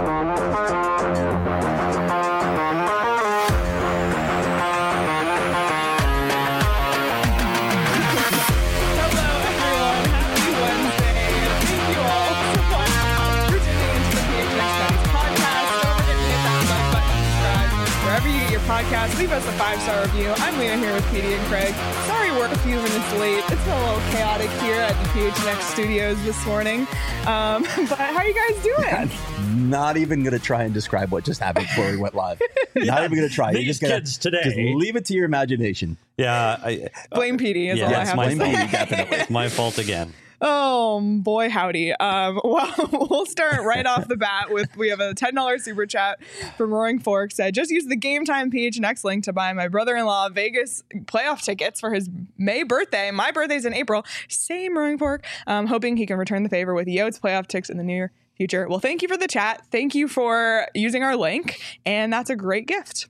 Podcast. Leave us a 5-star review. I'm Leah here with Petey and Craig. Sorry we're a few minutes late. It's been a little chaotic here at the PHNX studios this morning. But how are you guys doing? I'm not even going to try and describe what just happened before we went live. Not even going to try. These kids today. Just leave it to your imagination. Yeah. Blame Petey is all I have to say. Blame Petey, definitely. It's my fault again. Oh, boy, howdy. Well, we'll start right off the bat with, we have a $10 super chat from Roaring Fork. Said, just use the Game Time PHNX link to buy my brother-in-law Vegas playoff tickets for his May birthday. My birthday's in April. Same, Roaring Fork. Hoping he can return the favor with Yotes playoff tickets in the near future. Well, thank you for the chat. Thank you for using our link. And that's a great gift.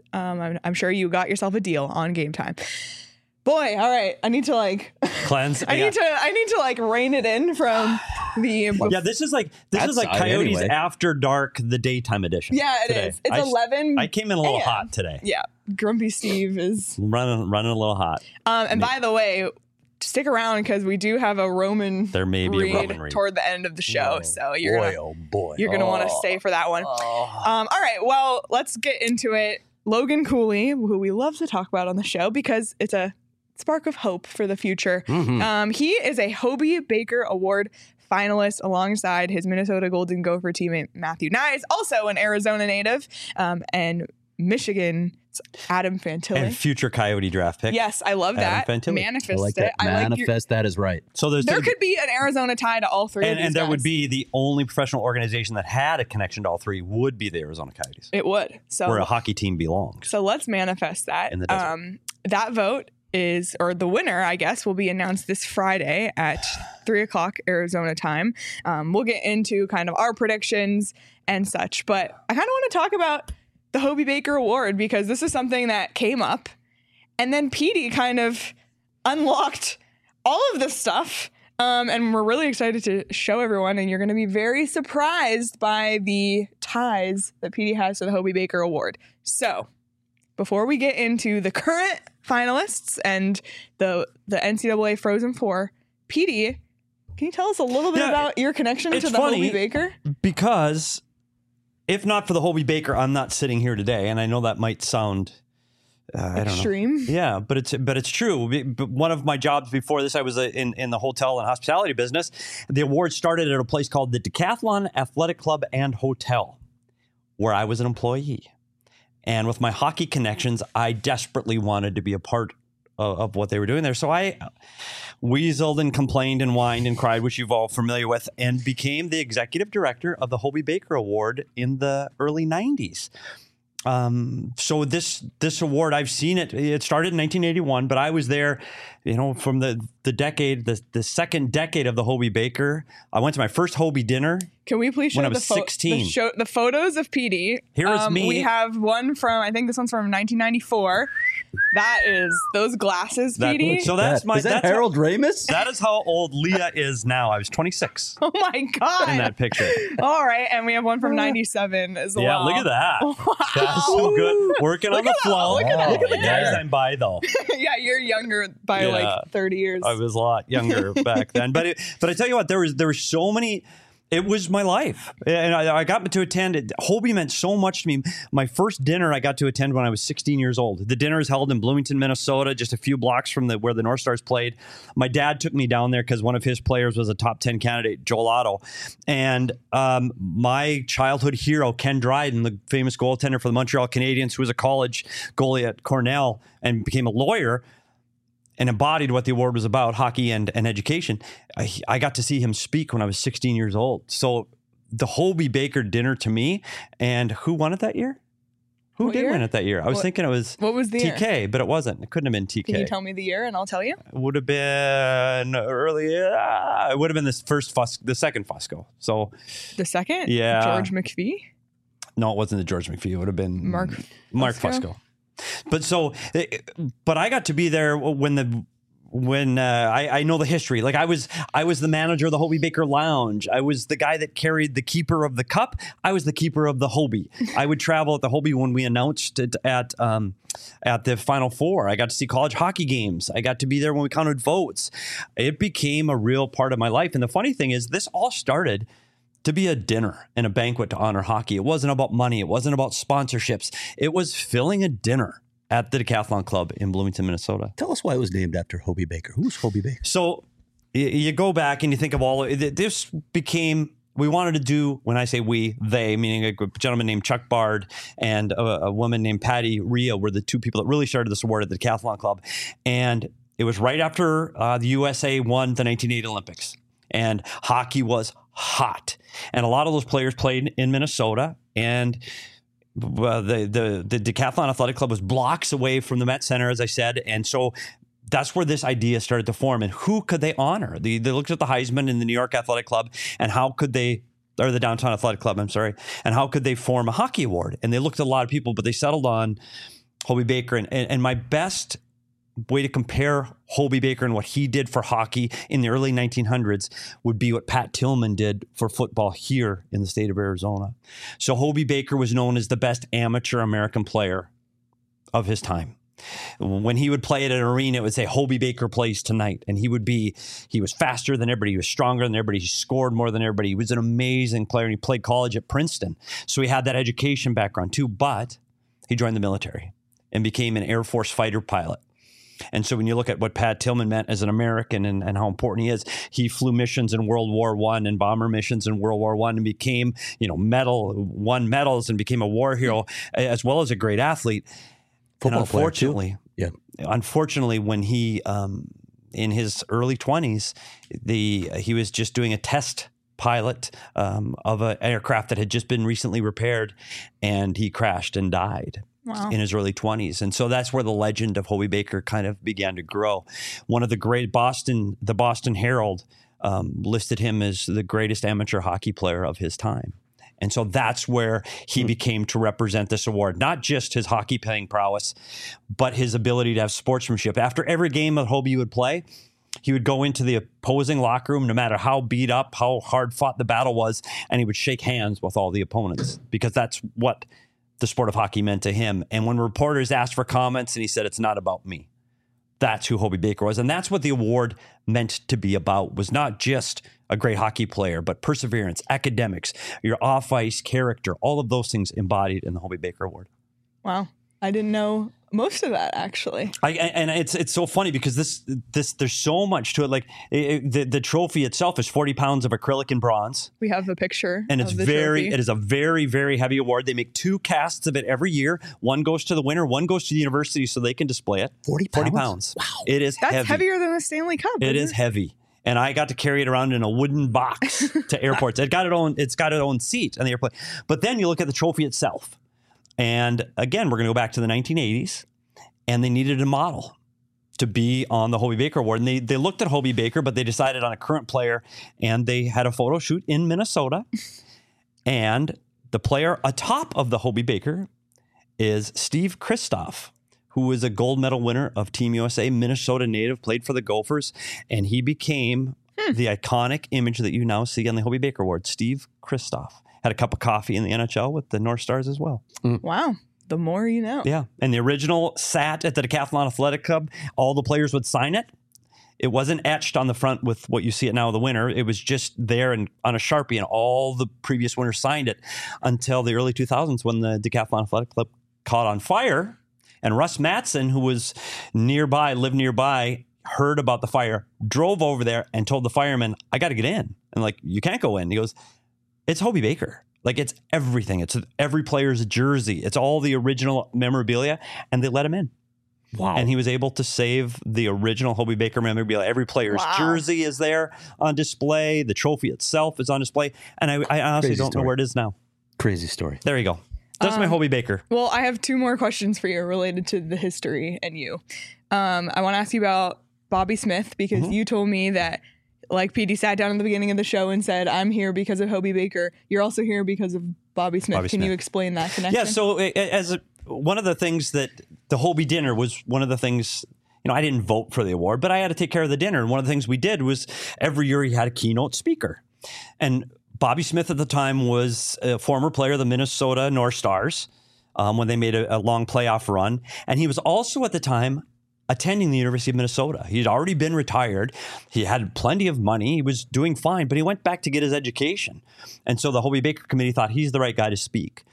I'm sure you got yourself a deal on Game Time. Boy, all right. I need to cleanse. I need to rein it in from the. Yeah, this is like Coyotes anyway. After Dark, the daytime edition. Yeah, it is. It's 11. I came in a little hot today. Yeah, Grumpy Steve is running a little hot. And by the way, stick around because we do have a Roman. There may be a Roman read toward the end of the show, so you're gonna want to stay for that one. All right, well, let's get into it. Logan Cooley, who we love to talk about on the show because it's a spark of hope for the future. Mm-hmm. He is a Hobey Baker Award finalist alongside his Minnesota Golden Gopher teammate Matthew Nyes, also an Arizona native, and Michigan's Adam Fantilli. And future Coyote draft pick. Yes, I love that. Fantilli. Manifest I like that. Manifest that is right. So there could be an Arizona tie to all three of these and there guys. would be the only professional organization that had a connection to all three would be the Arizona Coyotes. It would. So where a hockey team belongs. So let's manifest that. In the desert. That vote the winner, I guess, will be announced this Friday at 3:00 Arizona time. We'll get into kind of our predictions and such, but I kind of want to talk about the Hobey Baker Award because this is something that came up and then Petey kind of unlocked all of this stuff. And we're really excited to show everyone, and you're going to be very surprised by the ties that Petey has to the Hobey Baker Award. So before we get into the current finalists and the NCAA Frozen Four, Petey, can you tell us a little bit about your connection to the Hobey Baker? Because if not for the Hobey Baker, I'm not sitting here today, and I know that might sound extreme. I don't know. Yeah, but it's true. But one of my jobs before this, I was in the hotel and hospitality business. The award started at a place called the Decathlon Athletic Club and Hotel, where I was an employee. And with my hockey connections, I desperately wanted to be a part of what they were doing there. So I weaseled and complained and whined and cried, which you're all familiar with, and became the executive director of the Hobey Baker Award in the early 90s. So this award, I've seen it. It started in 1981, but I was there, from the decade, the second decade of the Hobey Baker. I went to my first Hobey dinner. Can we please show when I was 16? The photos of Petey? Here is me. We have one from, I think this one's from 1994. That is those glasses, Petey. So that's Is that Harold Ramis? That is how old Leah is now. I was 26. Oh my God. In that picture. All right. And we have one from 97 as well. Yeah, look at that. Wow. That's so good. Working on the flow. Look at the guys I'm by, though. Yeah, you're younger by like 30 years. I was a lot younger back then. But I tell you what, there were so many. It was my life. And I got to attend it. Hobey meant so much to me. My first dinner I got to attend when I was 16 years old. The dinner is held in Bloomington, Minnesota, just a few blocks from where the North Stars played. My dad took me down there because one of his players was a top 10 candidate, Joel Otto. And my childhood hero, Ken Dryden, the famous goaltender for the Montreal Canadiens, who was a college goalie at Cornell and became a lawyer, and embodied what the award was about, hockey and education. I got to see him speak when I was 16 years old. So the Hobey Baker dinner to me, and who won it that year? Who did win it that year? I was thinking it was what was the TK, year? But it wasn't. It couldn't have been TK. Can you tell me the year and I'll tell you? It would have been early. It would have been the second Fusco. So the second? Yeah. George McPhee? No, it wasn't the George McPhee. It would have been Mark Fusco. Fusco. But I got to be there when when I know the history. Like I was the manager of the Hobey Baker Lounge. I was the guy that carried the keeper of the cup. I was the keeper of the Hobey. I would travel at the Hobey when we announced it at the Final Four. I got to see college hockey games. I got to be there when we counted votes. It became a real part of my life. And the funny thing is, this all started to be a dinner and a banquet to honor hockey. It wasn't about money. It wasn't about sponsorships. It was filling a dinner at the Decathlon Club in Bloomington, Minnesota. Tell us why it was named after Hobey Baker. Who's Hobey Baker? So you go back and you think of all, this became, we wanted to do, when I say we, they, meaning a gentleman named Chuck Bard and a woman named Patty Rhea were the two people that really started this award at the Decathlon Club. And it was right after the USA won the 1980 Olympics. And hockey was hot. And a lot of those players played in Minnesota. And the Decathlon Athletic Club was blocks away from the Met Center, as I said. And so that's where this idea started to form. And who could they honor? They looked at the Heisman in the New York Athletic Club and how could they, or the Downtown Athletic Club, I'm sorry, and how could they form a hockey award? And they looked at a lot of people, but they settled on Hobey Baker. And my best way to compare Hobey Baker and what he did for hockey in the early 1900s would be what Pat Tillman did for football here in the state of Arizona. So Hobey Baker was known as the best amateur American player of his time. When he would play at an arena, it would say Hobey Baker plays tonight. And he was faster than everybody. He was stronger than everybody. He scored more than everybody. He was an amazing player, and he played college at Princeton. So he had that education background too, but he joined the military and became an Air Force fighter pilot. And so when you look at what Pat Tillman meant as an American and how important he is, he flew missions in World War I and bomber missions in World War I and became, won medals and became a war hero as well as a great athlete. Football and unfortunately, player too. Yeah. Unfortunately, when he, in his early 20s, he was just doing a test pilot of an aircraft that had just been recently repaired, and he crashed and died. Wow. In his early 20s. And so that's where the legend of Hobey Baker kind of began to grow. One of the great the Boston Herald listed him as the greatest amateur hockey player of his time. And so that's where he became to represent this award, not just his hockey playing prowess, but his ability to have sportsmanship. After every game that Hobey would play, he would go into the opposing locker room, no matter how beat up, how hard fought the battle was, and he would shake hands with all the opponents because that's what the sport of hockey meant to him. And when reporters asked for comments and he said, "It's not about me," that's who Hobey Baker was. And that's what the award meant to be about, was not just a great hockey player, but perseverance, academics, your off-ice character, all of those things embodied in the Hobey Baker Award. Wow. I didn't know most of that, actually. And it's so funny because this there's so much to it. Like the trophy itself is 40 pounds of acrylic and bronze. We have a picture. And it is a very, very heavy award. They make 2 casts of it every year. One goes to the winner, one goes to the university so they can display it. 40 pounds? Wow. It is That's heavy. heavier than the Stanley Cup. It is heavy. And I got to carry it around in a wooden box to airports. It's got its own seat on the airplane. But then you look at the trophy itself. And again, we're going to go back to the 1980s, and they needed a model to be on the Hobey Baker Award. And they looked at Hobey Baker, but they decided on a current player, and they had a photo shoot in Minnesota. And the player atop of the Hobey Baker is Steve Kristoff, who is a gold medal winner of Team USA, Minnesota native, played for the Gophers, and he became the iconic image that you now see on the Hobey Baker Award, Steve Kristoff. Had a cup of coffee in the NHL with the North Stars as well. Wow. The more you know. Yeah. And the original sat at the Decathlon Athletic Club. All the players would sign it. It wasn't etched on the front with what you see it now, the winner. It was just there and on a Sharpie, and all the previous winners signed it until the early 2000s when the Decathlon Athletic Club caught on fire. And Russ Matson, who was lived nearby, heard about the fire, drove over there and told the firemen, "I got to get in." And like, "You can't go in." He goes, "It's Hobey Baker. Like, it's everything. It's every player's jersey. It's all the original memorabilia." And they let him in. Wow. And he was able to save the original Hobey Baker memorabilia. Every player's jersey is there on display. The trophy itself is on display. And I honestly don't know where it is now. Crazy story. There you go. That's my Hobey Baker. Well, I have 2 more questions for you related to the history and you. I want to ask you about Bobby Smith, because you told me that, like, PD sat down at the beginning of the show and said, "I'm here because of Hobey Baker. You're also here because of Bobby Smith." Can you explain that connection? Yeah, so one of the things that the Hobey dinner was one of the things, I didn't vote for the award, but I had to take care of the dinner. And one of the things we did was every year he had a keynote speaker. And Bobby Smith at the time was a former player of the Minnesota North Stars when they made a long playoff run. And he was also at the time attending the University of Minnesota. He'd already been retired. He had plenty of money. He was doing fine, but he went back to get his education. And so the Hobey Baker Committee thought he's the right guy to speak.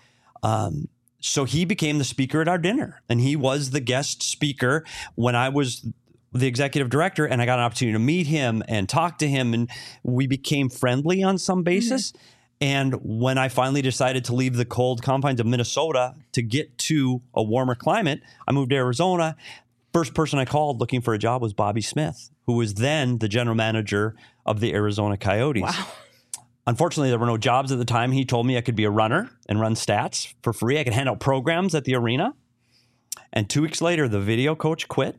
So he became the speaker at our dinner, and he was the guest speaker when I was the executive director, and I got an opportunity to meet him and talk to him, and we became friendly on some basis. Mm-hmm. And when I finally decided to leave the cold confines of Minnesota to get to a warmer climate, I moved to Arizona. First person I called looking for a job was Bobby Smith, who was then the general manager of the Arizona Coyotes. Wow. Unfortunately, there were no jobs at the time. He told me I could be a runner and run stats for free. I could hand out programs at the arena. And 2 weeks later, the video coach quit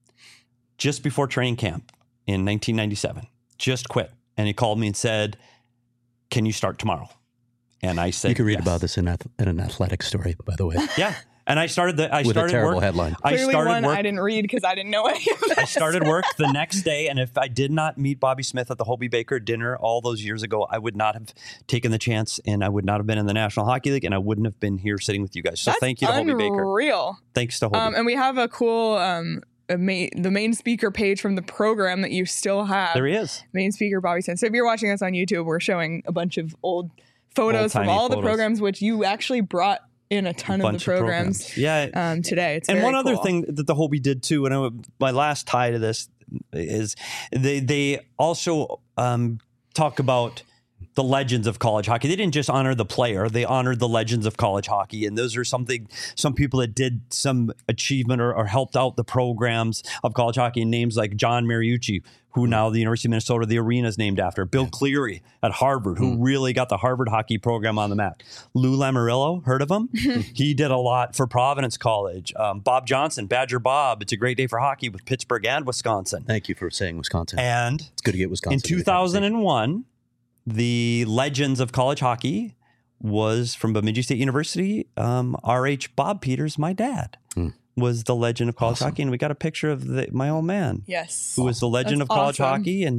just before training camp in 1997. Just quit. And he called me and said, "Can you start tomorrow?" And I said, you can read yes. about this in an athletic story, by the way. Yeah. And I started with a terrible headline. Clearly one I didn't read because I didn't know any of this. I started work the next day, and if I did not meet Bobby Smith at the Hobey Baker dinner all those years ago, I would not have taken the chance, and I would not have been in the National Hockey League, and I wouldn't have been here sitting with you guys. So thank you to Hobey Baker. Unreal. Thanks to Hobey. And we have a cool the main speaker page from the program that you still have. There he is. Main speaker Bobby Smith. So if you're watching us on YouTube, we're showing a bunch of old photos from all the programs, which you actually brought in a ton of the programs. Yeah. Today. It's and very one other cool. thing that the Hobey did too, and my last tie to this is they also talk about the legends of college hockey. They didn't just honor the player; they honored the legends of college hockey, and those are some people that did some achievement or helped out the programs of college hockey. And names like John Mariucci, who now the University of Minnesota, the arena is named after. Bill Cleary at Harvard, who really got the Harvard hockey program on the map. Lou Lamoriello, heard of him? He did a lot for Providence College. Bob Johnson, Badger Bob. It's a great day for hockey with Pittsburgh and Wisconsin. Thank you for saying Wisconsin. And it's good to get Wisconsin. In 2001, the legends of college hockey was from Bemidji State University. R.H. Bob Peters, my dad, was the legend of college hockey. And we got a picture of my old man. Yes. Who was the legend of college hockey and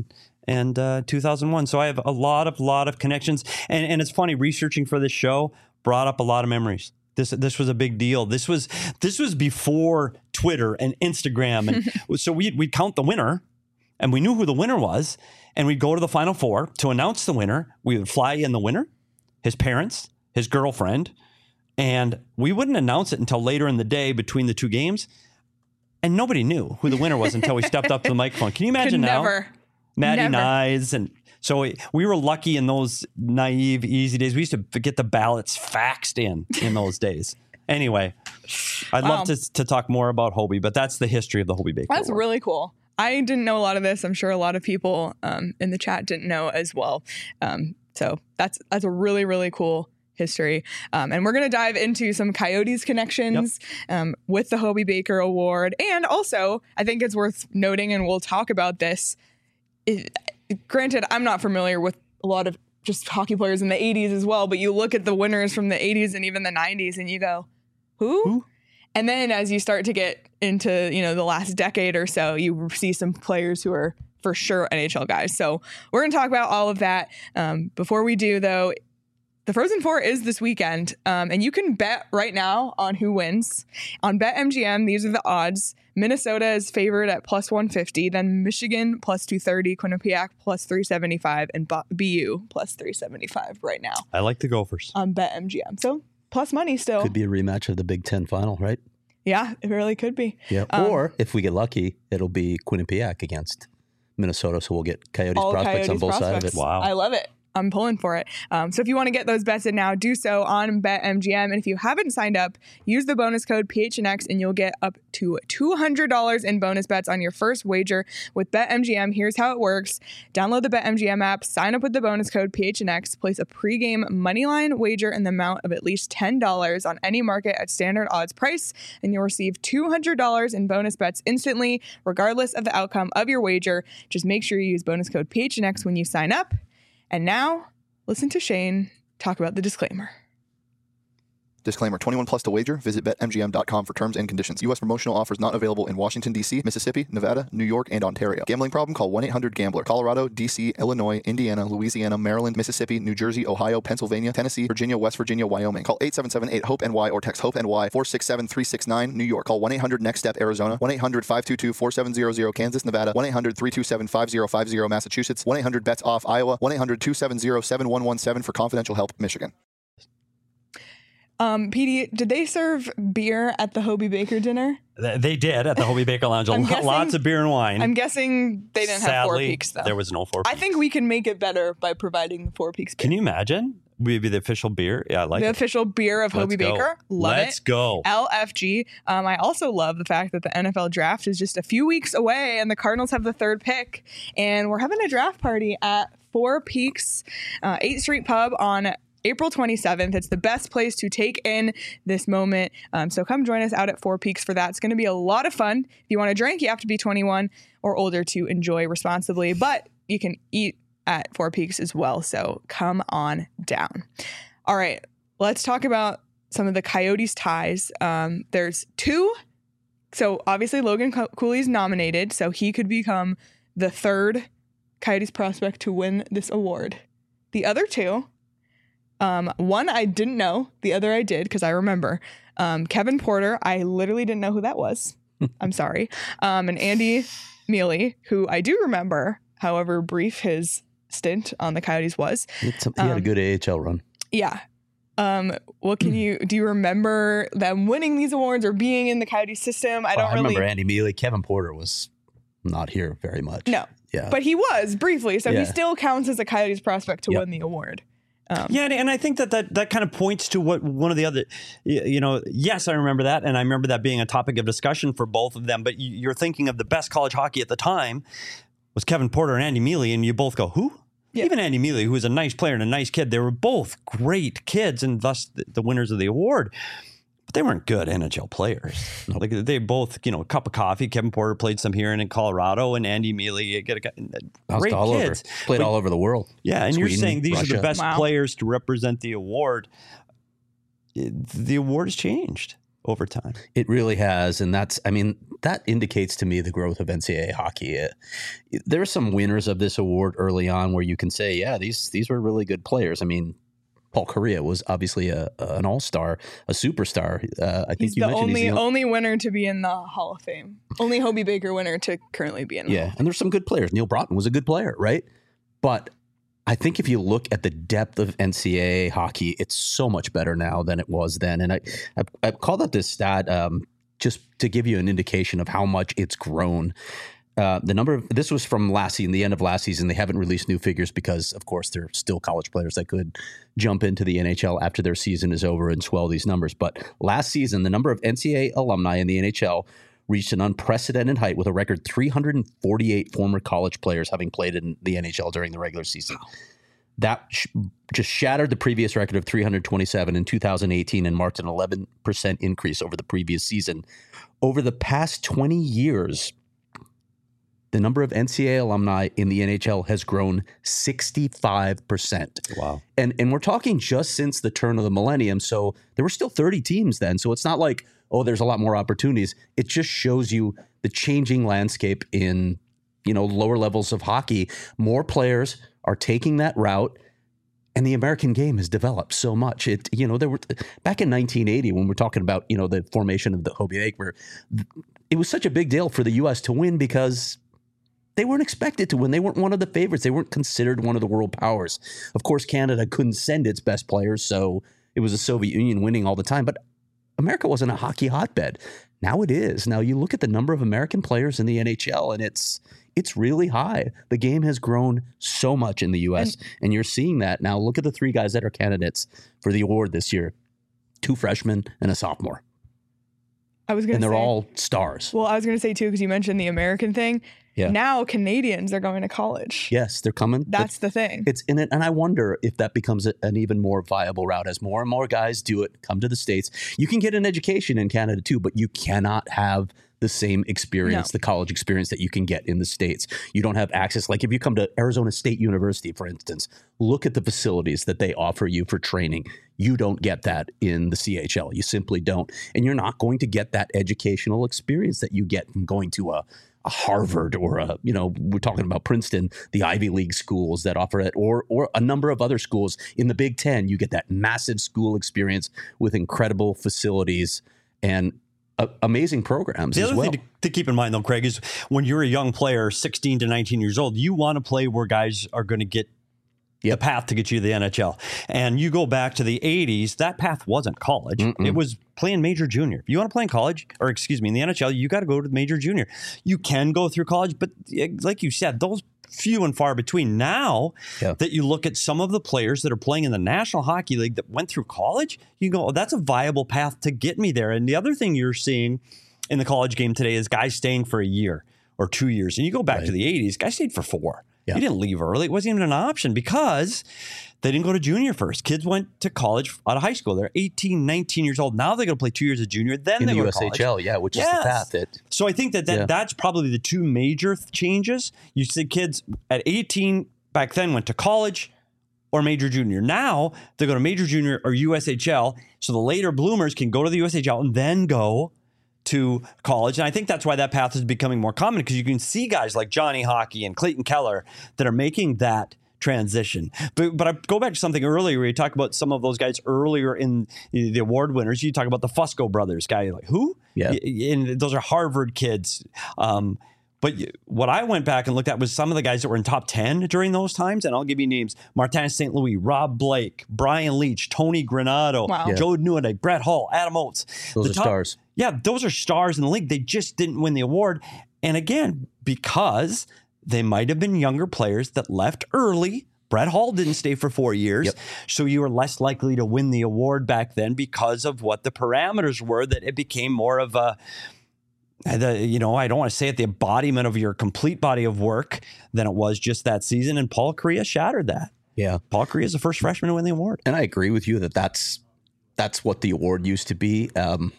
2001. So I have a lot of connections. And it's funny, researching for this show brought up a lot of memories. This was a big deal. This was before Twitter and Instagram. And so we'd count the winner, and we knew who the winner was. And we'd go to the Final Four to announce the winner. We would fly in the winner, his parents, his girlfriend, and we wouldn't announce it until later in the day between the two games. And nobody knew who the winner was until we stepped up to the microphone. Can you imagine now? Maddie Nyes. And so we were lucky in those naive, easy days. We used to get the ballots faxed in those days. Anyway, I'd love to talk more about Hobey, but that's the history of the Hobey Baker That's Award. really cool. I didn't know a lot of this. I'm sure a lot of people in the chat didn't know as well. So that's a really, really cool history. And we're going to dive into some Coyotes connections with the Hobey Baker Award. And also, I think it's worth noting, and we'll talk about this. Granted, I'm not familiar with a lot of just hockey players in the 80s as well, but you look at the winners from the 80s and even the 90s and you go, who? And then as you start to get into, the last decade or so, you see some players who are for sure NHL guys. So we're going to talk about all of that. Before we do, though, the Frozen Four is this weekend, and you can bet right now on who wins. On BetMGM, these are the odds. Minnesota is favored at plus 150, then Michigan plus 230, Quinnipiac plus 375, and BU plus 375 right now. I like the Gophers. On BetMGM. So plus money still. Could be a rematch of the Big Ten final, right? Yeah, it really could be. Yeah. Or if we get lucky, it'll be Quinnipiac against Minnesota. So we'll get Coyotes prospects on both sides of it. Wow. I love it. I'm pulling for it. So if you want to get those bets in now, do so on BetMGM. And if you haven't signed up, use the bonus code PHNX and you'll get up to $200 in bonus bets on your first wager with BetMGM. Here's how it works. Download the BetMGM app, sign up with the bonus code PHNX, place a pregame moneyline wager in the amount of at least $10 on any market at standard odds price, and you'll receive $200 in bonus bets instantly, regardless of the outcome of your wager. Just make sure you use bonus code PHNX when you sign up. And now, listen to Shane talk about the disclaimer. Disclaimer, 21 plus to wager. Visit BetMGM.com for terms and conditions. U.S. promotional offers not available in Washington, D.C., Mississippi, Nevada, New York, and Ontario. Gambling problem? Call 1-800-GAMBLER. Colorado, D.C., Illinois, Indiana, Louisiana, Maryland, Mississippi, New Jersey, Ohio, Pennsylvania, Tennessee, Virginia, West Virginia, Wyoming. Call 877-8-HOPE-NY or text HOPE-NY 467-369. New York. Call 1-800-NEXT-STEP, Arizona. 1-800-522-4700, Kansas, Nevada. 1-800-327-5050, Massachusetts. 1-800-BETS-OFF, Iowa. 1-800-270-7117 for confidential help, Michigan. PD, did they serve beer at the Hobey Baker dinner? They did at the Hobey Baker Lounge. Lots of beer and wine. I'm guessing they didn't have Four Peaks, though. There was no Four Peaks. I think we can make it better by providing the Four Peaks beer. Can you imagine? We'd be the official beer. Yeah, I like the it. official beer of Hobey Baker. Love it. Let's go. LFG. I also love the fact that the NFL draft is just a few weeks away and the Cardinals have the 3rd pick. And we're having a draft party at Four Peaks 8th Street Pub on April 27th. It's the best place to take in this moment. So come join us out at Four Peaks for that. It's going to be a lot of fun. If you want to drink, you have to be 21 or older to enjoy responsibly, but you can eat at Four Peaks as well. So come on down. All right, let's talk about some of the Coyotes ties. There's 2. So obviously Logan Cooley's nominated, so he could become the 3rd Coyotes prospect to win this award. The other 2, one I didn't know, the other I did because I remember. Kevin Porter, I literally didn't know who that was. I'm sorry. And Andy Mealy, who I do remember, however brief his stint on the Coyotes was. He had a good AHL run. Yeah. What do you remember them winning these awards or being in the Coyotes system? I remember Andy Mealy. Kevin Porter was not here very much. No. Yeah. But he was briefly, so he still counts as a Coyotes prospect to win the award. And I think that kind of points to what one of the other, yes, I remember that. And I remember that being a topic of discussion for both of them. But you're thinking of the best college hockey at the time was Kevin Porter and Andy Mealy. And you both go, who? Yeah. Even Andy Mealy, who was a nice player and a nice kid. They were both great kids and thus the winners of the award. But they weren't good NHL players. Like they both, a cup of coffee. Kevin Porter played some here and in Colorado, and Andy Mealy great kids. Played all over the world. Yeah, and Sweden, you're saying these Russia. Are the best players to represent the award. The award has changed over time. It really has, and that indicates to me the growth of NCAA hockey. There are some winners of this award early on where you can say, yeah, these were really good players. I mean, Paul Kariya was obviously an all-star, a superstar. I think you mentioned he's the only winner to be in the Hall of Fame. Only Hobey Baker winner to currently be in the Hall of Fame. And there's some good players. Neil Broughton was a good player, right? But I think if you look at the depth of NCAA hockey, it's so much better now than it was then. And I called out this stat just to give you an indication of how much it's grown. This was from the end of last season. They haven't released new figures because, of course, there are still college players that could jump into the NHL after their season is over and swell these numbers. But last season, the number of NCAA alumni in the NHL reached an unprecedented height with a record 348 former college players having played in the NHL during the regular season. Wow. That just shattered the previous record of 327 in 2018 and marked an 11% increase over the previous season. Over the past 20 years, the number of NCAA alumni in the NHL has grown 65%. Wow. And we're talking just since the turn of the millennium. So there were still 30 teams then. So it's not like, there's a lot more opportunities. It just shows you the changing landscape in, lower levels of hockey. More players are taking that route. And the American game has developed so much. There were back in 1980 when we're talking about, the formation of the Hobey Baker, it was such a big deal for the U.S. to win because they weren't expected to win. They weren't one of the favorites. They weren't considered one of the world powers. Of course, Canada couldn't send its best players, so it was the Soviet Union winning all the time. But America wasn't a hockey hotbed. Now it is. Now you look at the number of American players in the NHL, and it's really high. The game has grown so much in the U.S., and you're seeing that. Now look at the 3 guys that are candidates for the award this year. 2 freshmen and a sophomore. They're all stars. Well, I was going to say, too, because you mentioned the American thing. Yeah. Now Canadians are going to college. Yes, they're coming. That's the thing. It's in it. And I wonder if that becomes an even more viable route as more and more guys do it, come to the States. You can get an education in Canada, too, but you cannot have the same experience, No. the college experience that you can get in the States. You don't have access. Like if you come to Arizona State University, for instance, look at the facilities that they offer you for training. You don't get that in the CHL. You simply don't. And you're not going to get that educational experience that you get from going to a Harvard or we're talking about Princeton, the Ivy League schools that offer it, or a number of other schools in the Big Ten. You get that massive school experience with incredible facilities and amazing programs The as other well. thing to keep in mind, though, Craig, is when you're a young player, 16 to 19 years old, you want to play where guys are going to get the path to get you to the NHL. And you go back to the 80s, that path wasn't college. It was playing major junior. If you want to play in college, or excuse me, in the NHL, you got to go to the major junior. You can go through college, but like you said, those few and far between. Now that you look at some of the players that are playing in the National Hockey League that went through college, you go, oh, that's a viable path to get me there. And the other thing you're seeing in the college game today is guys staying for a year or 2 years. And you go back to the 80s, guys stayed for 4. Yeah. He didn't leave early. It wasn't even an option because they didn't go to junior first. Kids went to college out of high school. They're 18, 19 years old. Now they're going to play 2 years of junior. Then in they the go to college. USHL, which is the path that. So I think that's probably the two major changes. You see kids at 18 back then went to college or major junior. Now they go to major junior or USHL. So the later bloomers can go to the USHL and then go to college. And I think that's why that path is becoming more common, because you can see guys like Johnny Hockey and Clayton Keller that are making that transition. But I go back to something earlier where you talk about some of those guys earlier in the award winners. You talk about the Fusco brothers guy, like who? Yeah. And those are Harvard kids. But what I went back and looked at was some of the guys that were in top 10 during those times. And I'll give you names: Martin St. Louis, Rob Blake, Brian Leach, Tony Granado, Joe Newton, Brett Hull, Adam Oates. Those are stars. Yeah, those are stars in the league. They just didn't win the award. And again, because they might have been younger players that left early. Brett Hull didn't stay for 4 years. So you were less likely to win the award back then because of what the parameters were, that it became more of a, I don't want to say it, the embodiment of your complete body of work than it was just that season. And Paul Kariya shattered that. Yeah. Paul Kariya is the first freshman to win the award. And I agree with you that that's what the award used to be.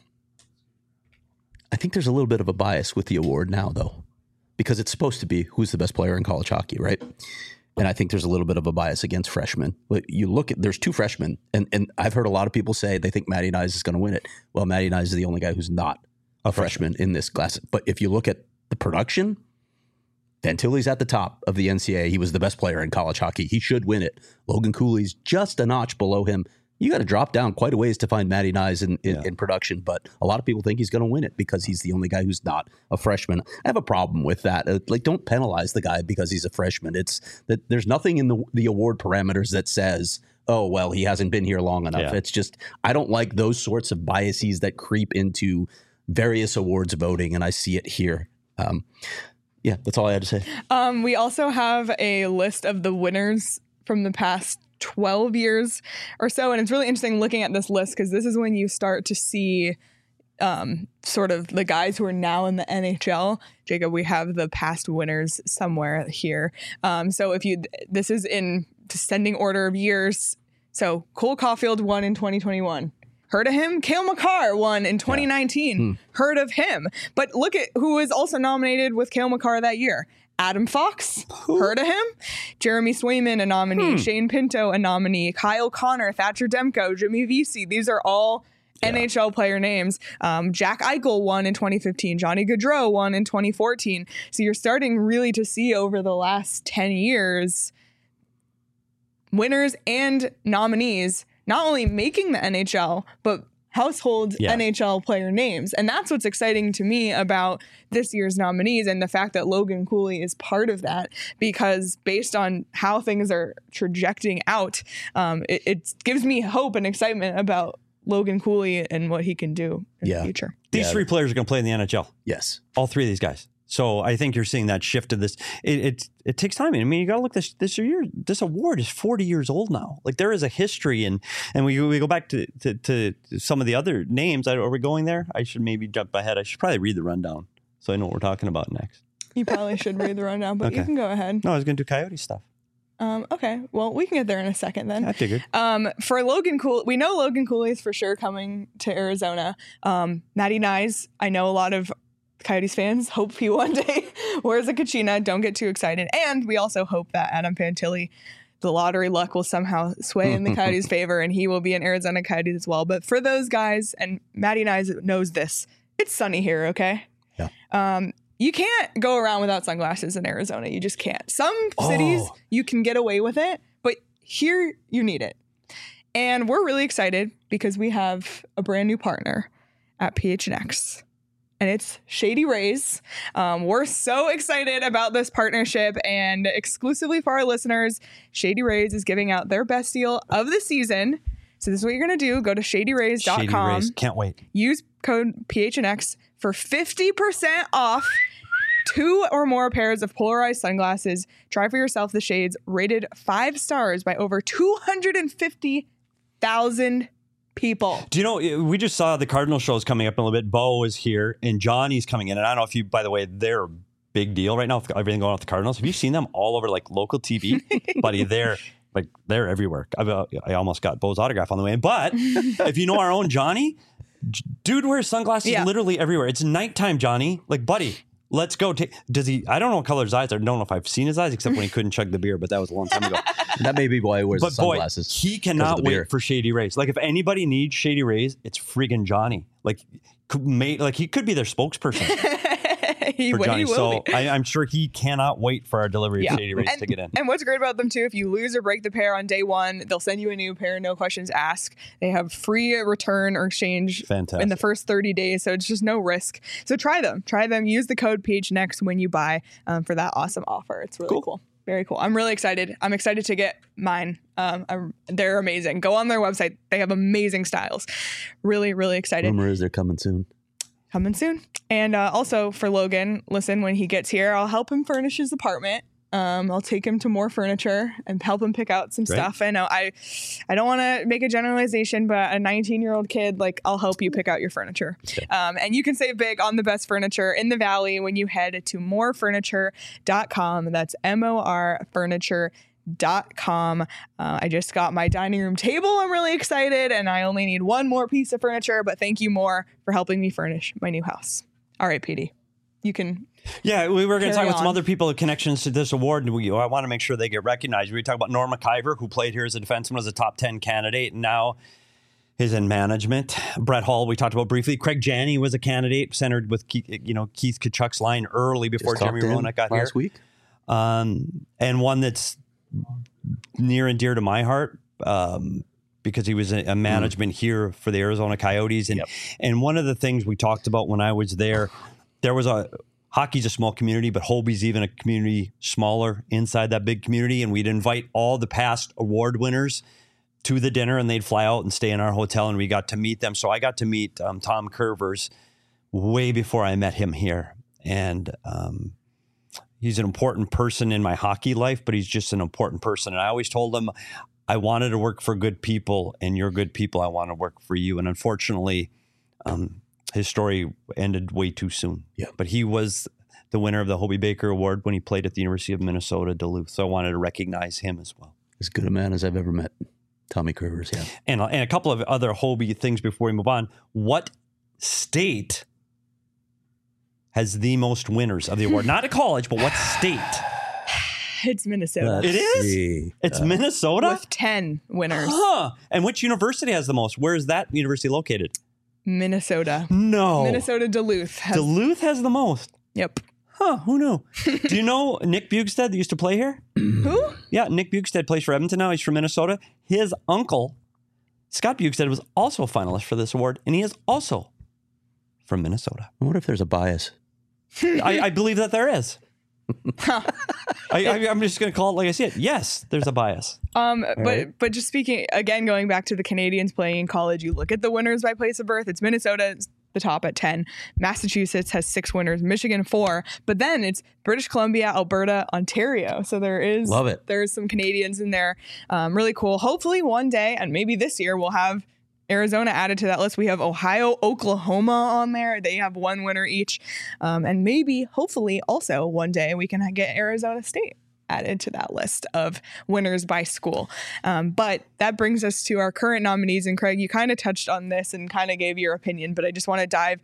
I think there's a little bit of a bias with the award now, though, because it's supposed to be who's the best player in college hockey, right? And I think there's a little bit of a bias against freshmen. But you look at, there's 2 freshmen, and I've heard a lot of people say they think Matty Nyes is going to win it. Well, Matty Nyes is the only guy who's not a freshman in this class. But if you look at the production, Fantilli's at the top of the NCAA. He was the best player in college hockey. He should win it. Logan Cooley's just a notch below him. You got to drop down quite a ways to find Matty Nyes in production, but a lot of people think he's going to win it because he's the only guy who's not a freshman. I have a problem with that. Don't penalize the guy because he's a freshman. It's that there's nothing in the award parameters that says, oh, well, he hasn't been here long enough. Yeah. It's just, I don't like those sorts of biases that creep into various awards voting, and I see it here. That's all I had to say. We also have a list of the winners from the past 12 years or so. And it's really interesting looking at this list because this is when you start to see sort of the guys who are now in the NHL. Jacob, we have the past winners somewhere here. So this is in descending order of years. So Cole Caulfield won in 2021. Heard of him? Cale Makar won in 2019. Heard of him. But look at who was also nominated with Cale Makar that year. Adam Fox, heard of him? Jeremy Swayman, a nominee. Shane Pinto, a nominee. Kyle Connor, Thatcher Demko, Jimmy Vesey. These are all NHL player names. Jack Eichel won in 2015. Johnny Gaudreau won in 2014. So you're starting really to see over the last 10 years winners and nominees not only making the NHL, but household NHL player names. And that's what's exciting to me about this year's nominees and the fact that Logan Cooley is part of that, because based on how things are trajecting out, it gives me hope and excitement about Logan Cooley and what he can do in the future. These 3 players are going to play in the NHL. Yes. All 3 of these guys. So I think you're seeing that shift of this. It takes time. I mean, you got to look this year. This award is 40 years old now. Like, there is a history, and we go back to some of the other names. Are we going there? I should maybe jump ahead. I should probably read the rundown so I know what we're talking about next. You probably should read the rundown, but you can go ahead. No, I was going to do Coyote stuff. Okay. Well, we can get there in a second then. I figured. For Logan Cooley, we know Logan Cooley is for sure coming to Arizona. Matty Nyes, I know a lot of Coyotes fans hope he one day wears a Kachina. Don't get too excited. And we also hope that Adam Fantilli, the lottery luck will somehow sway in the Coyotes' favor and he will be an Arizona Coyotes as well. But for those guys, and Maddie and I knows this, it's sunny here, okay? Yeah. You can't go around without sunglasses in Arizona. You just can't. Some cities you can get away with it, but here you need it. And we're really excited because we have a brand new partner at PHNX. And it's Shady Rays. We're so excited about this partnership, and exclusively for our listeners, Shady Rays is giving out their best deal of the season. So this is what you're going to do. Go to shadyrays.com. Shady Rays. Can't wait. Use code PHNX for 50% off 2 or more pairs of polarized sunglasses. Try for yourself the shades rated 5 stars by over 250,000 people. Do you know, we just saw the Cardinal shows coming up in a little bit. Bo is here and Johnny's coming in. And I don't know if you, by the way, they're a big deal right now with everything going on with the Cardinals. Have you seen them all over like local TV? Buddy, they're everywhere. I almost got Bo's autograph on the way in. But if you know our own Johnny, dude wears sunglasses literally everywhere. It's nighttime, Johnny. Like, buddy, let's go. Does he? I don't know what color his eyes are. I don't know if I've seen his eyes except when he couldn't chug the beer, but that was a long time ago. That may be why he wears the But boy, sunglasses. he cannot wait for Shady Rays. Like, if anybody needs Shady Rays, it's friggin' Johnny. Like he could be their spokesperson He for Johnny. will So be. I'm sure he cannot wait for our delivery of Shady Rays to get in. And what's great about them too, if you lose or break the pair on day one, they'll send you a new pair, no questions asked. They have free return or exchange Fantastic. in the first 30 days, so it's just no risk. So try them. Use the code PHNX when you buy for that awesome offer. It's really cool. Very cool. I'm really excited. I'm excited to get mine. They're amazing. Go on their website. They have amazing styles. Really, really excited. Rumor is they're coming soon. Coming soon. And also for Logan, listen, when he gets here, I'll help him furnish his apartment. I'll take him to more furniture and help him pick out some stuff. I know I don't want to make a generalization, but a 19-year-old kid, like, I'll help you pick out your furniture. Okay. And you can save big on the best furniture in the Valley when you head to morefurniture.com. That's MOR furniture.com. I just got my dining room table. I'm really excited, and I only need one more piece of furniture, but thank you, More, for helping me furnish my new house. All right, PD, you can. Yeah, we were going to talk about some on. other people with connections to this award, and I want to make sure they get recognized. We talk about Norm McIver, who played here as a defenseman, was a top 10 candidate, and now is in management. Brett Hull, we talked about briefly. Craig Janney was a candidate, centered with Keith Kachuk's line early before Jeremy Roenick got here last week. And one that's near and dear to my heart because he was a management here for the Arizona Coyotes. And one of the things we talked about when I was there was hockey's a small community, but Hobie's even a community smaller inside that big community. And we'd invite all the past award winners to the dinner, and they'd fly out and stay in our hotel, and we got to meet them. So I got to meet Tom Curvers way before I met him here. And he's an important person in my hockey life, but he's just an important person. And I always told him I wanted to work for good people, and you're good people. I want to work for you. And unfortunately, his story ended way too soon. Yeah. But he was the winner of the Hobie Baker Award when he played at the University of Minnesota, Duluth. So I wanted to recognize him as well. As good a man as I've ever met. Tommy Curvers, yeah. And a couple of other Hobie things before we move on. What state has the most winners of the award? Not a college, but what state? It's Minnesota. It is? It's Minnesota? With 10 winners. Huh. And which university has the most? Where is that university located? Minnesota. No. Minnesota Duluth. Duluth has the most? Yep. Huh, who knew? Do you know Nick Bugstead that used to play here? Who? Yeah, Nick Bugstead plays for Edmonton now. He's from Minnesota. His uncle, Scott Bugstead, was also a finalist for this award, and he is also from Minnesota. I wonder if there's a bias. I believe that there is. I'm just going to call it like I see it. Yes, there's a bias. But just speaking, again, going back to the Canadians playing in college, you look at the winners by place of birth. It's Minnesota, it's the top at 10. Massachusetts has 6 winners, Michigan 4, but then it's British Columbia, Alberta, Ontario. So there's some Canadians in there. Really cool. Hopefully one day, and maybe this year, we'll have Arizona added to that list. We have Ohio, Oklahoma on there. They have 1 winner each. And maybe, hopefully, also one day we can get Arizona State added to that list of winners by school. But that brings us to our current nominees. And Craig, you kind of touched on this and kind of gave your opinion, but I just want to dive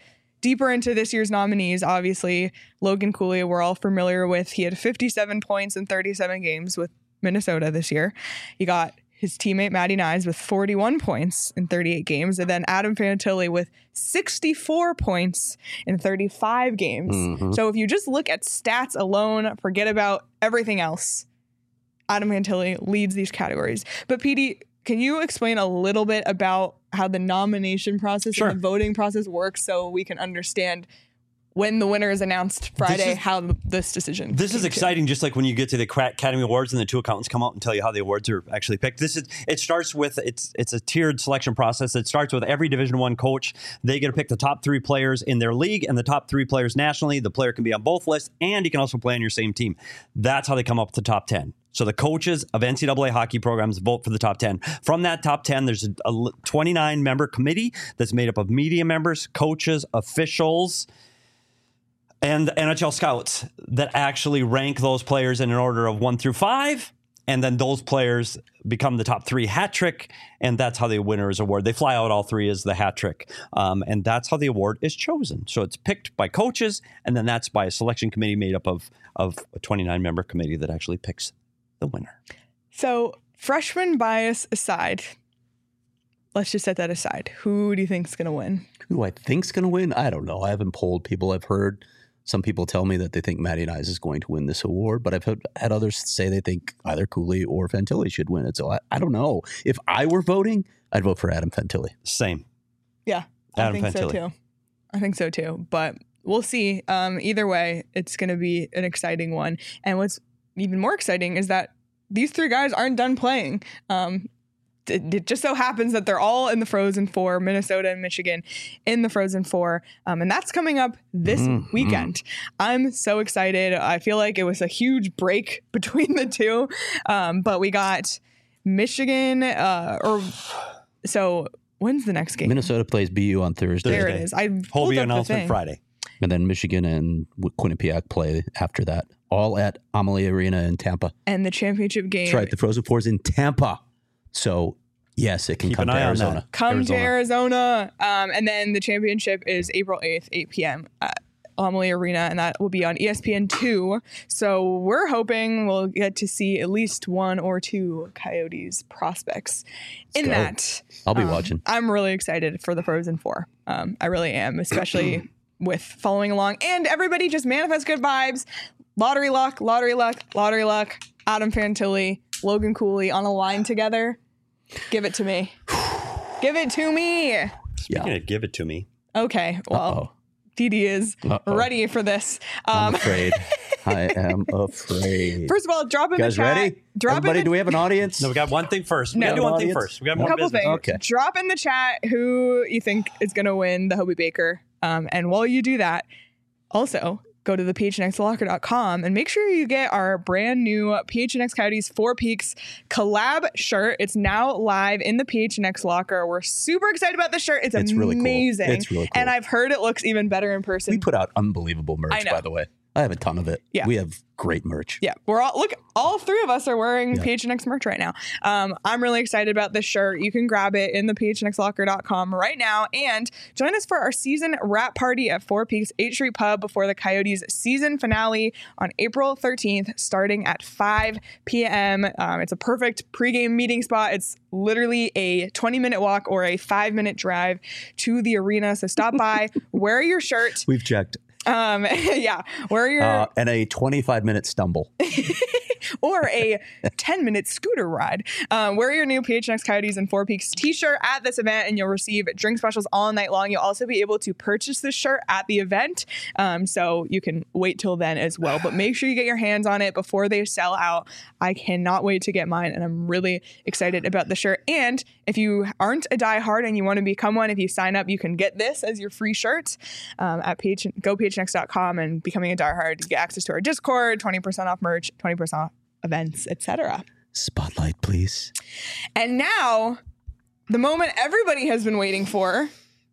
deeper into this year's nominees, obviously, Logan Cooley, we're all familiar with. He had 57 points in 37 games with Minnesota this year. You got his teammate Matty Nyes with 41 points in 38 games, and then Adam Fantilli with 64 points in 35 games. So if you just look at stats alone, forget about everything else, Adam Fantilli leads these categories. But PD, can you explain a little bit about how the nomination process and the voting process works so we can understand when the winner is announced Friday, how this decision This is exciting, just like when you get to the Academy Awards and the two accountants come out and tell you how the awards are actually picked. It starts with, it's a tiered selection process. It starts with every Division I coach. They get to pick the top 3 players in their league and the top 3 players nationally. The player can be on both lists, and he can also play on your same team. That's how they come up with the top 10. So the coaches of NCAA hockey programs vote for the top 10. From that top 10, there's a 29-member committee that's made up of media members, coaches, officials, and the NHL scouts that actually rank those players in an order of 1 through 5. And then those players become the top 3 hat trick. And that's how the winner is awarded. They fly out all 3 as the hat trick. And that's how the award is chosen. So it's picked by coaches. And then that's by a selection committee made up of a 29-member committee that actually picks the winner. So freshman bias aside, let's just set that aside. Who do you think is going to win? Who I think's going to win? I don't know. I haven't polled people. I've heard some people tell me that they think Matty Nyes is going to win this award, but I've had others say they think either Cooley or Fantilli should win it. So I don't know. If I were voting, I'd vote for Adam Fantilli. Same. Yeah, Adam I think Fantilli. so too. I think so too. But we'll see. Either way, it's going to be an exciting one. And what's even more exciting is that these 3 guys aren't done playing. It just so happens that they're all in the Frozen Four, Minnesota and Michigan in the Frozen Four. And that's coming up this weekend. I'm so excited. I feel like it was a huge break between the two. But we got Michigan, so when's the next game? Minnesota plays BU on Thursday. There it is. I pulled Hobie up the announcement thing. Friday. And then Michigan and Quinnipiac play after that. All at Amalie Arena in Tampa. And the championship game. That's right. The Frozen Four is in Tampa. So, yes, it can Keep come an to eye on Arizona. that. Come to Arizona. And then the championship is April 8th, 8 p.m. at Amalie Arena, and that will be on ESPN2. So we're hoping we'll get to see at least 1 or 2 Coyotes prospects in go. that. I'll be watching. I'm really excited for the Frozen Four. I really am, especially with following along. And everybody just manifest good vibes. Lottery luck, lottery luck, lottery luck. Adam Fantilli, Logan Cooley on a line together. Give it to me. Give it to me. Speaking of give it to me. Okay, well, DD is ready for this. I'm afraid. I am afraid. First of all, drop in You guys the chat. ready? Drop Everybody, in do we have an audience? No, we got one thing first. We No. got to do one thing Audience? first. We got a more couple business. things. Okay. Drop in the chat who you think is going to win the Hobie Baker. And while you do that, also go to the phnxlocker.com and make sure you get our brand new PHNX Coyotes 4 Peaks collab shirt. It's now live in the PHNX Locker. We're super excited about the shirt. It's amazing. really cool. It's really cool. And I've heard it looks even better in person. We put out unbelievable I merch, know. by the way. I have a ton of it. Yeah. We have great merch. Yeah, we're all 3 of us are wearing PHNX merch right now. I'm really excited about this shirt. You can grab it in the phnxlocker.com right now and join us for our season wrap party at 4 Peaks 8th Street Pub before the Coyotes season finale on April 13th, starting at 5 p.m. It's a perfect pregame meeting spot. It's literally a 20-minute walk or a 5-minute drive to the arena. So stop by, wear your shirt. We've checked. Yeah, wear your And a 25-minute stumble. or a 10-minute scooter ride. Wear your new PHNX Coyotes and 4 Peaks t-shirt at this event, and you'll receive drink specials all night long. You'll also be able to purchase this shirt at the event, so you can wait till then as well. But make sure you get your hands on it before they sell out. I cannot wait to get mine, and I'm really excited about the shirt. And if you aren't a diehard and you want to become one, if you sign up, you can get this as your free shirt at gophnx.com, and becoming a diehard, you get access to our Discord, 20% off merch, 20% off events, etc. Spotlight, please. And now, the moment everybody has been waiting for.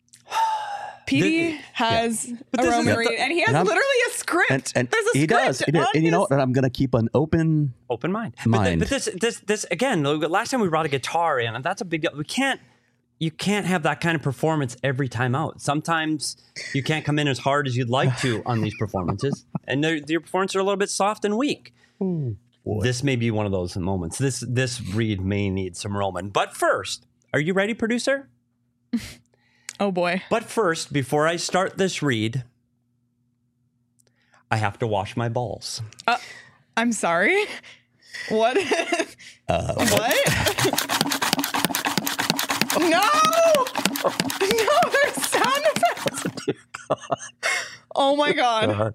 PD has a Roman read, and he has literally a script. And There's a he script. does. He does. And you know what? And I'm going to keep an open Open mind. Mind. But this again, last time we brought a guitar in, and that's a big deal. We can't, you can't have that kind of performance every time out. Sometimes you can't come in as hard as you'd like to on these performances, and your performances are a little bit soft and weak. This may be one of those moments. This read may need some Roman. But first, are you ready, producer? Oh boy. But first, before I start this read, I have to wash my balls. I'm sorry. What? What? No! No, there's sound effects. Oh my god.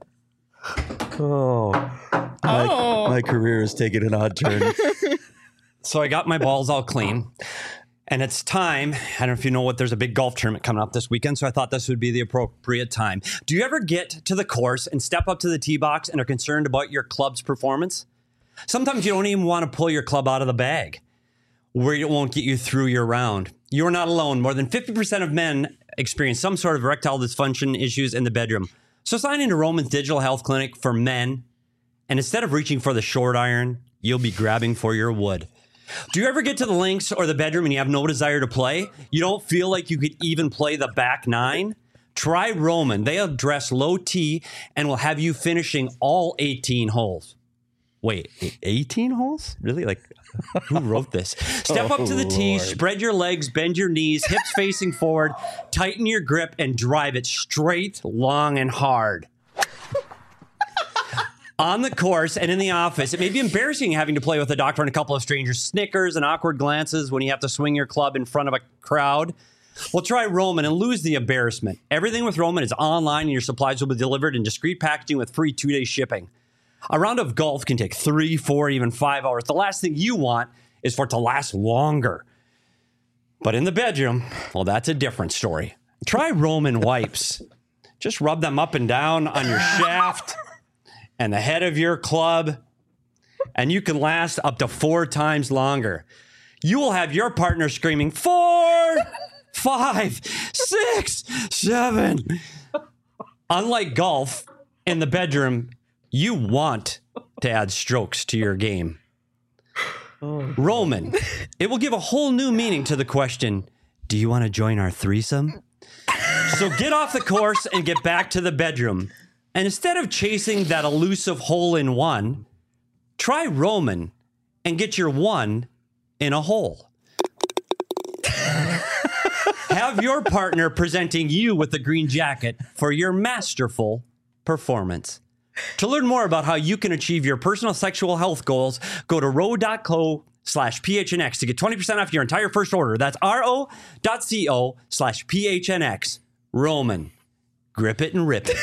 My career is taking an odd turn. So I got my balls all clean. And it's time. I don't know if you know what, there's a big golf tournament coming up this weekend, so I thought this would be the appropriate time. Do you ever get to the course and step up to the tee box and are concerned about your club's performance? Sometimes you don't even want to pull your club out of the bag, where it won't get you through your round. You're not alone. More than 50% of men experience some sort of erectile dysfunction issues in the bedroom. So sign into Roman's Digital Health Clinic for men, and instead of reaching for the short iron, you'll be grabbing for your wood. Do you ever get to the links or the bedroom and you have no desire to play? You don't feel like you could even play the back nine? Try Roman. They address low T and will have you finishing all 18 holes. Wait, 18 holes? Really? Like, who wrote this? Step up to the tee, spread your legs, bend your knees, hips facing forward, tighten your grip, and drive it straight, long, and hard. On the course and in the office, it may be embarrassing having to play with a doctor and a couple of strangers, snickers and awkward glances when you have to swing your club in front of a crowd. Well, try Roman and lose the embarrassment. Everything with Roman is online and your supplies will be delivered in discreet packaging with free 2-day shipping. A round of golf can take 3, 4, even 5 hours. The last thing you want is for it to last longer. But in the bedroom, well, that's a different story. Try Roman wipes. Just rub them up and down on your shaft and the head of your club, and you can last up to 4 times longer. You will have your partner screaming, 4, 5, 6, 7. Unlike golf, in the bedroom, you want to add strokes to your game. Roman, it will give a whole new meaning to the question, do you want to join our threesome? So get off the course and get back to the bedroom. And instead of chasing that elusive hole-in-one, try Roman and get your one in a hole. Have your partner presenting you with the green jacket for your masterful performance. To learn more about how you can achieve your personal sexual health goals, go to ro.co/PHNX to get 20% off your entire first order. That's ro.co/PHNX. Roman. Grip it and rip it.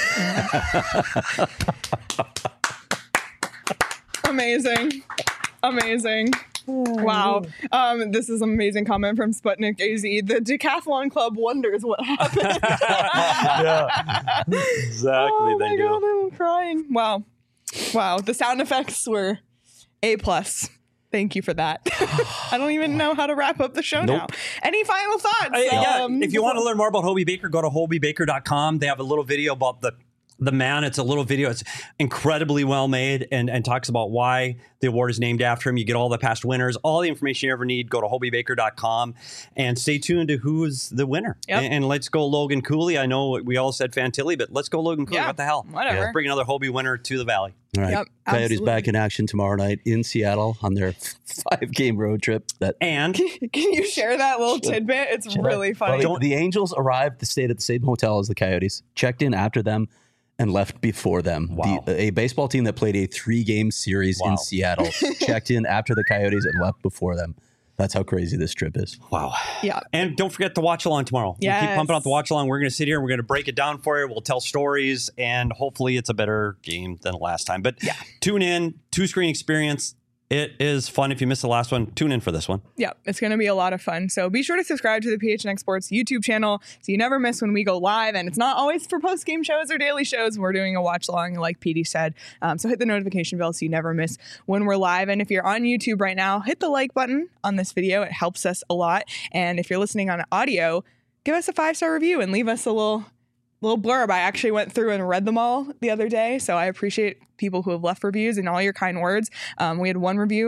Amazing. Amazing. Wow. This is an amazing comment from Sputnik AZ. The Decathlon Club wonders what happened. Yeah. Exactly. Oh they my do. God, I'm crying. Wow. Wow. The sound effects were A+. Thank you for that. I don't even know how to wrap up the show now. Any final thoughts? If you want to learn more about Hobey Baker, go to hobeybaker.com. They have a little video about the man. It's a little video. It's incredibly well made and talks about why the award is named after him. You get all the past winners, all the information you ever need. Go to hobeybaker.com and stay tuned to who's the winner. Yep. And let's go Logan Cooley. I know we all said Fantilli, but let's go Logan Cooley. Yeah, what the hell? whatever. Let's bring another Hobey winner to the Valley. All right. Yep, Coyotes absolutely. back in action tomorrow night in Seattle on their 5-game road trip. And Can you share that little tidbit? It's really funny. The Angels arrived, stayed at the same hotel as the Coyotes, checked in after them, and left before them. Wow. A baseball team that played a 3-game series in Seattle checked in after the Coyotes and left before them. That's how crazy this trip is. wow. Yeah. And don't forget to watch along tomorrow. We keep Yes. pumping out the watch along. We're going to sit here and we're going to break it down for you. We'll tell stories and hopefully it's a better game than the last time. But tune in, 2-screen experience. It is fun. If you missed the last one, tune in for this one. Yeah, it's going to be a lot of fun. So be sure to subscribe to the PHNX Sports YouTube channel so you never miss when we go live. And it's not always for post-game shows or daily shows. We're doing a watch along, like Petey said. So hit the notification bell so you never miss when we're live. And if you're on YouTube right now, hit the like button on this video. It helps us a lot. And if you're listening on audio, give us a 5-star review and leave us a little blurb. I actually went through and read them all the other day. So I appreciate people who have left reviews and all your kind words. We had one review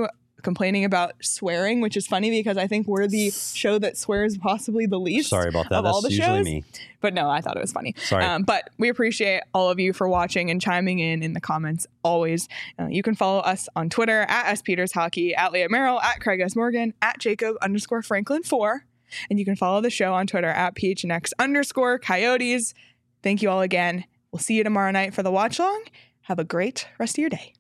complaining about swearing, which is funny because I think we're the show that swears possibly the least. Sorry about that. Of all the That's usually shows. me. But no, I thought it was funny. Sorry. But we appreciate all of you for watching and chiming in the comments always. You can follow us on Twitter at SPetersHockey, at Leah Merrill, at Craig S. Morgan, at Jacob_Franklin4. And you can follow the show on Twitter at PHNX_Coyotes. Thank you all again. We'll see you tomorrow night for the watch long. Have a great rest of your day.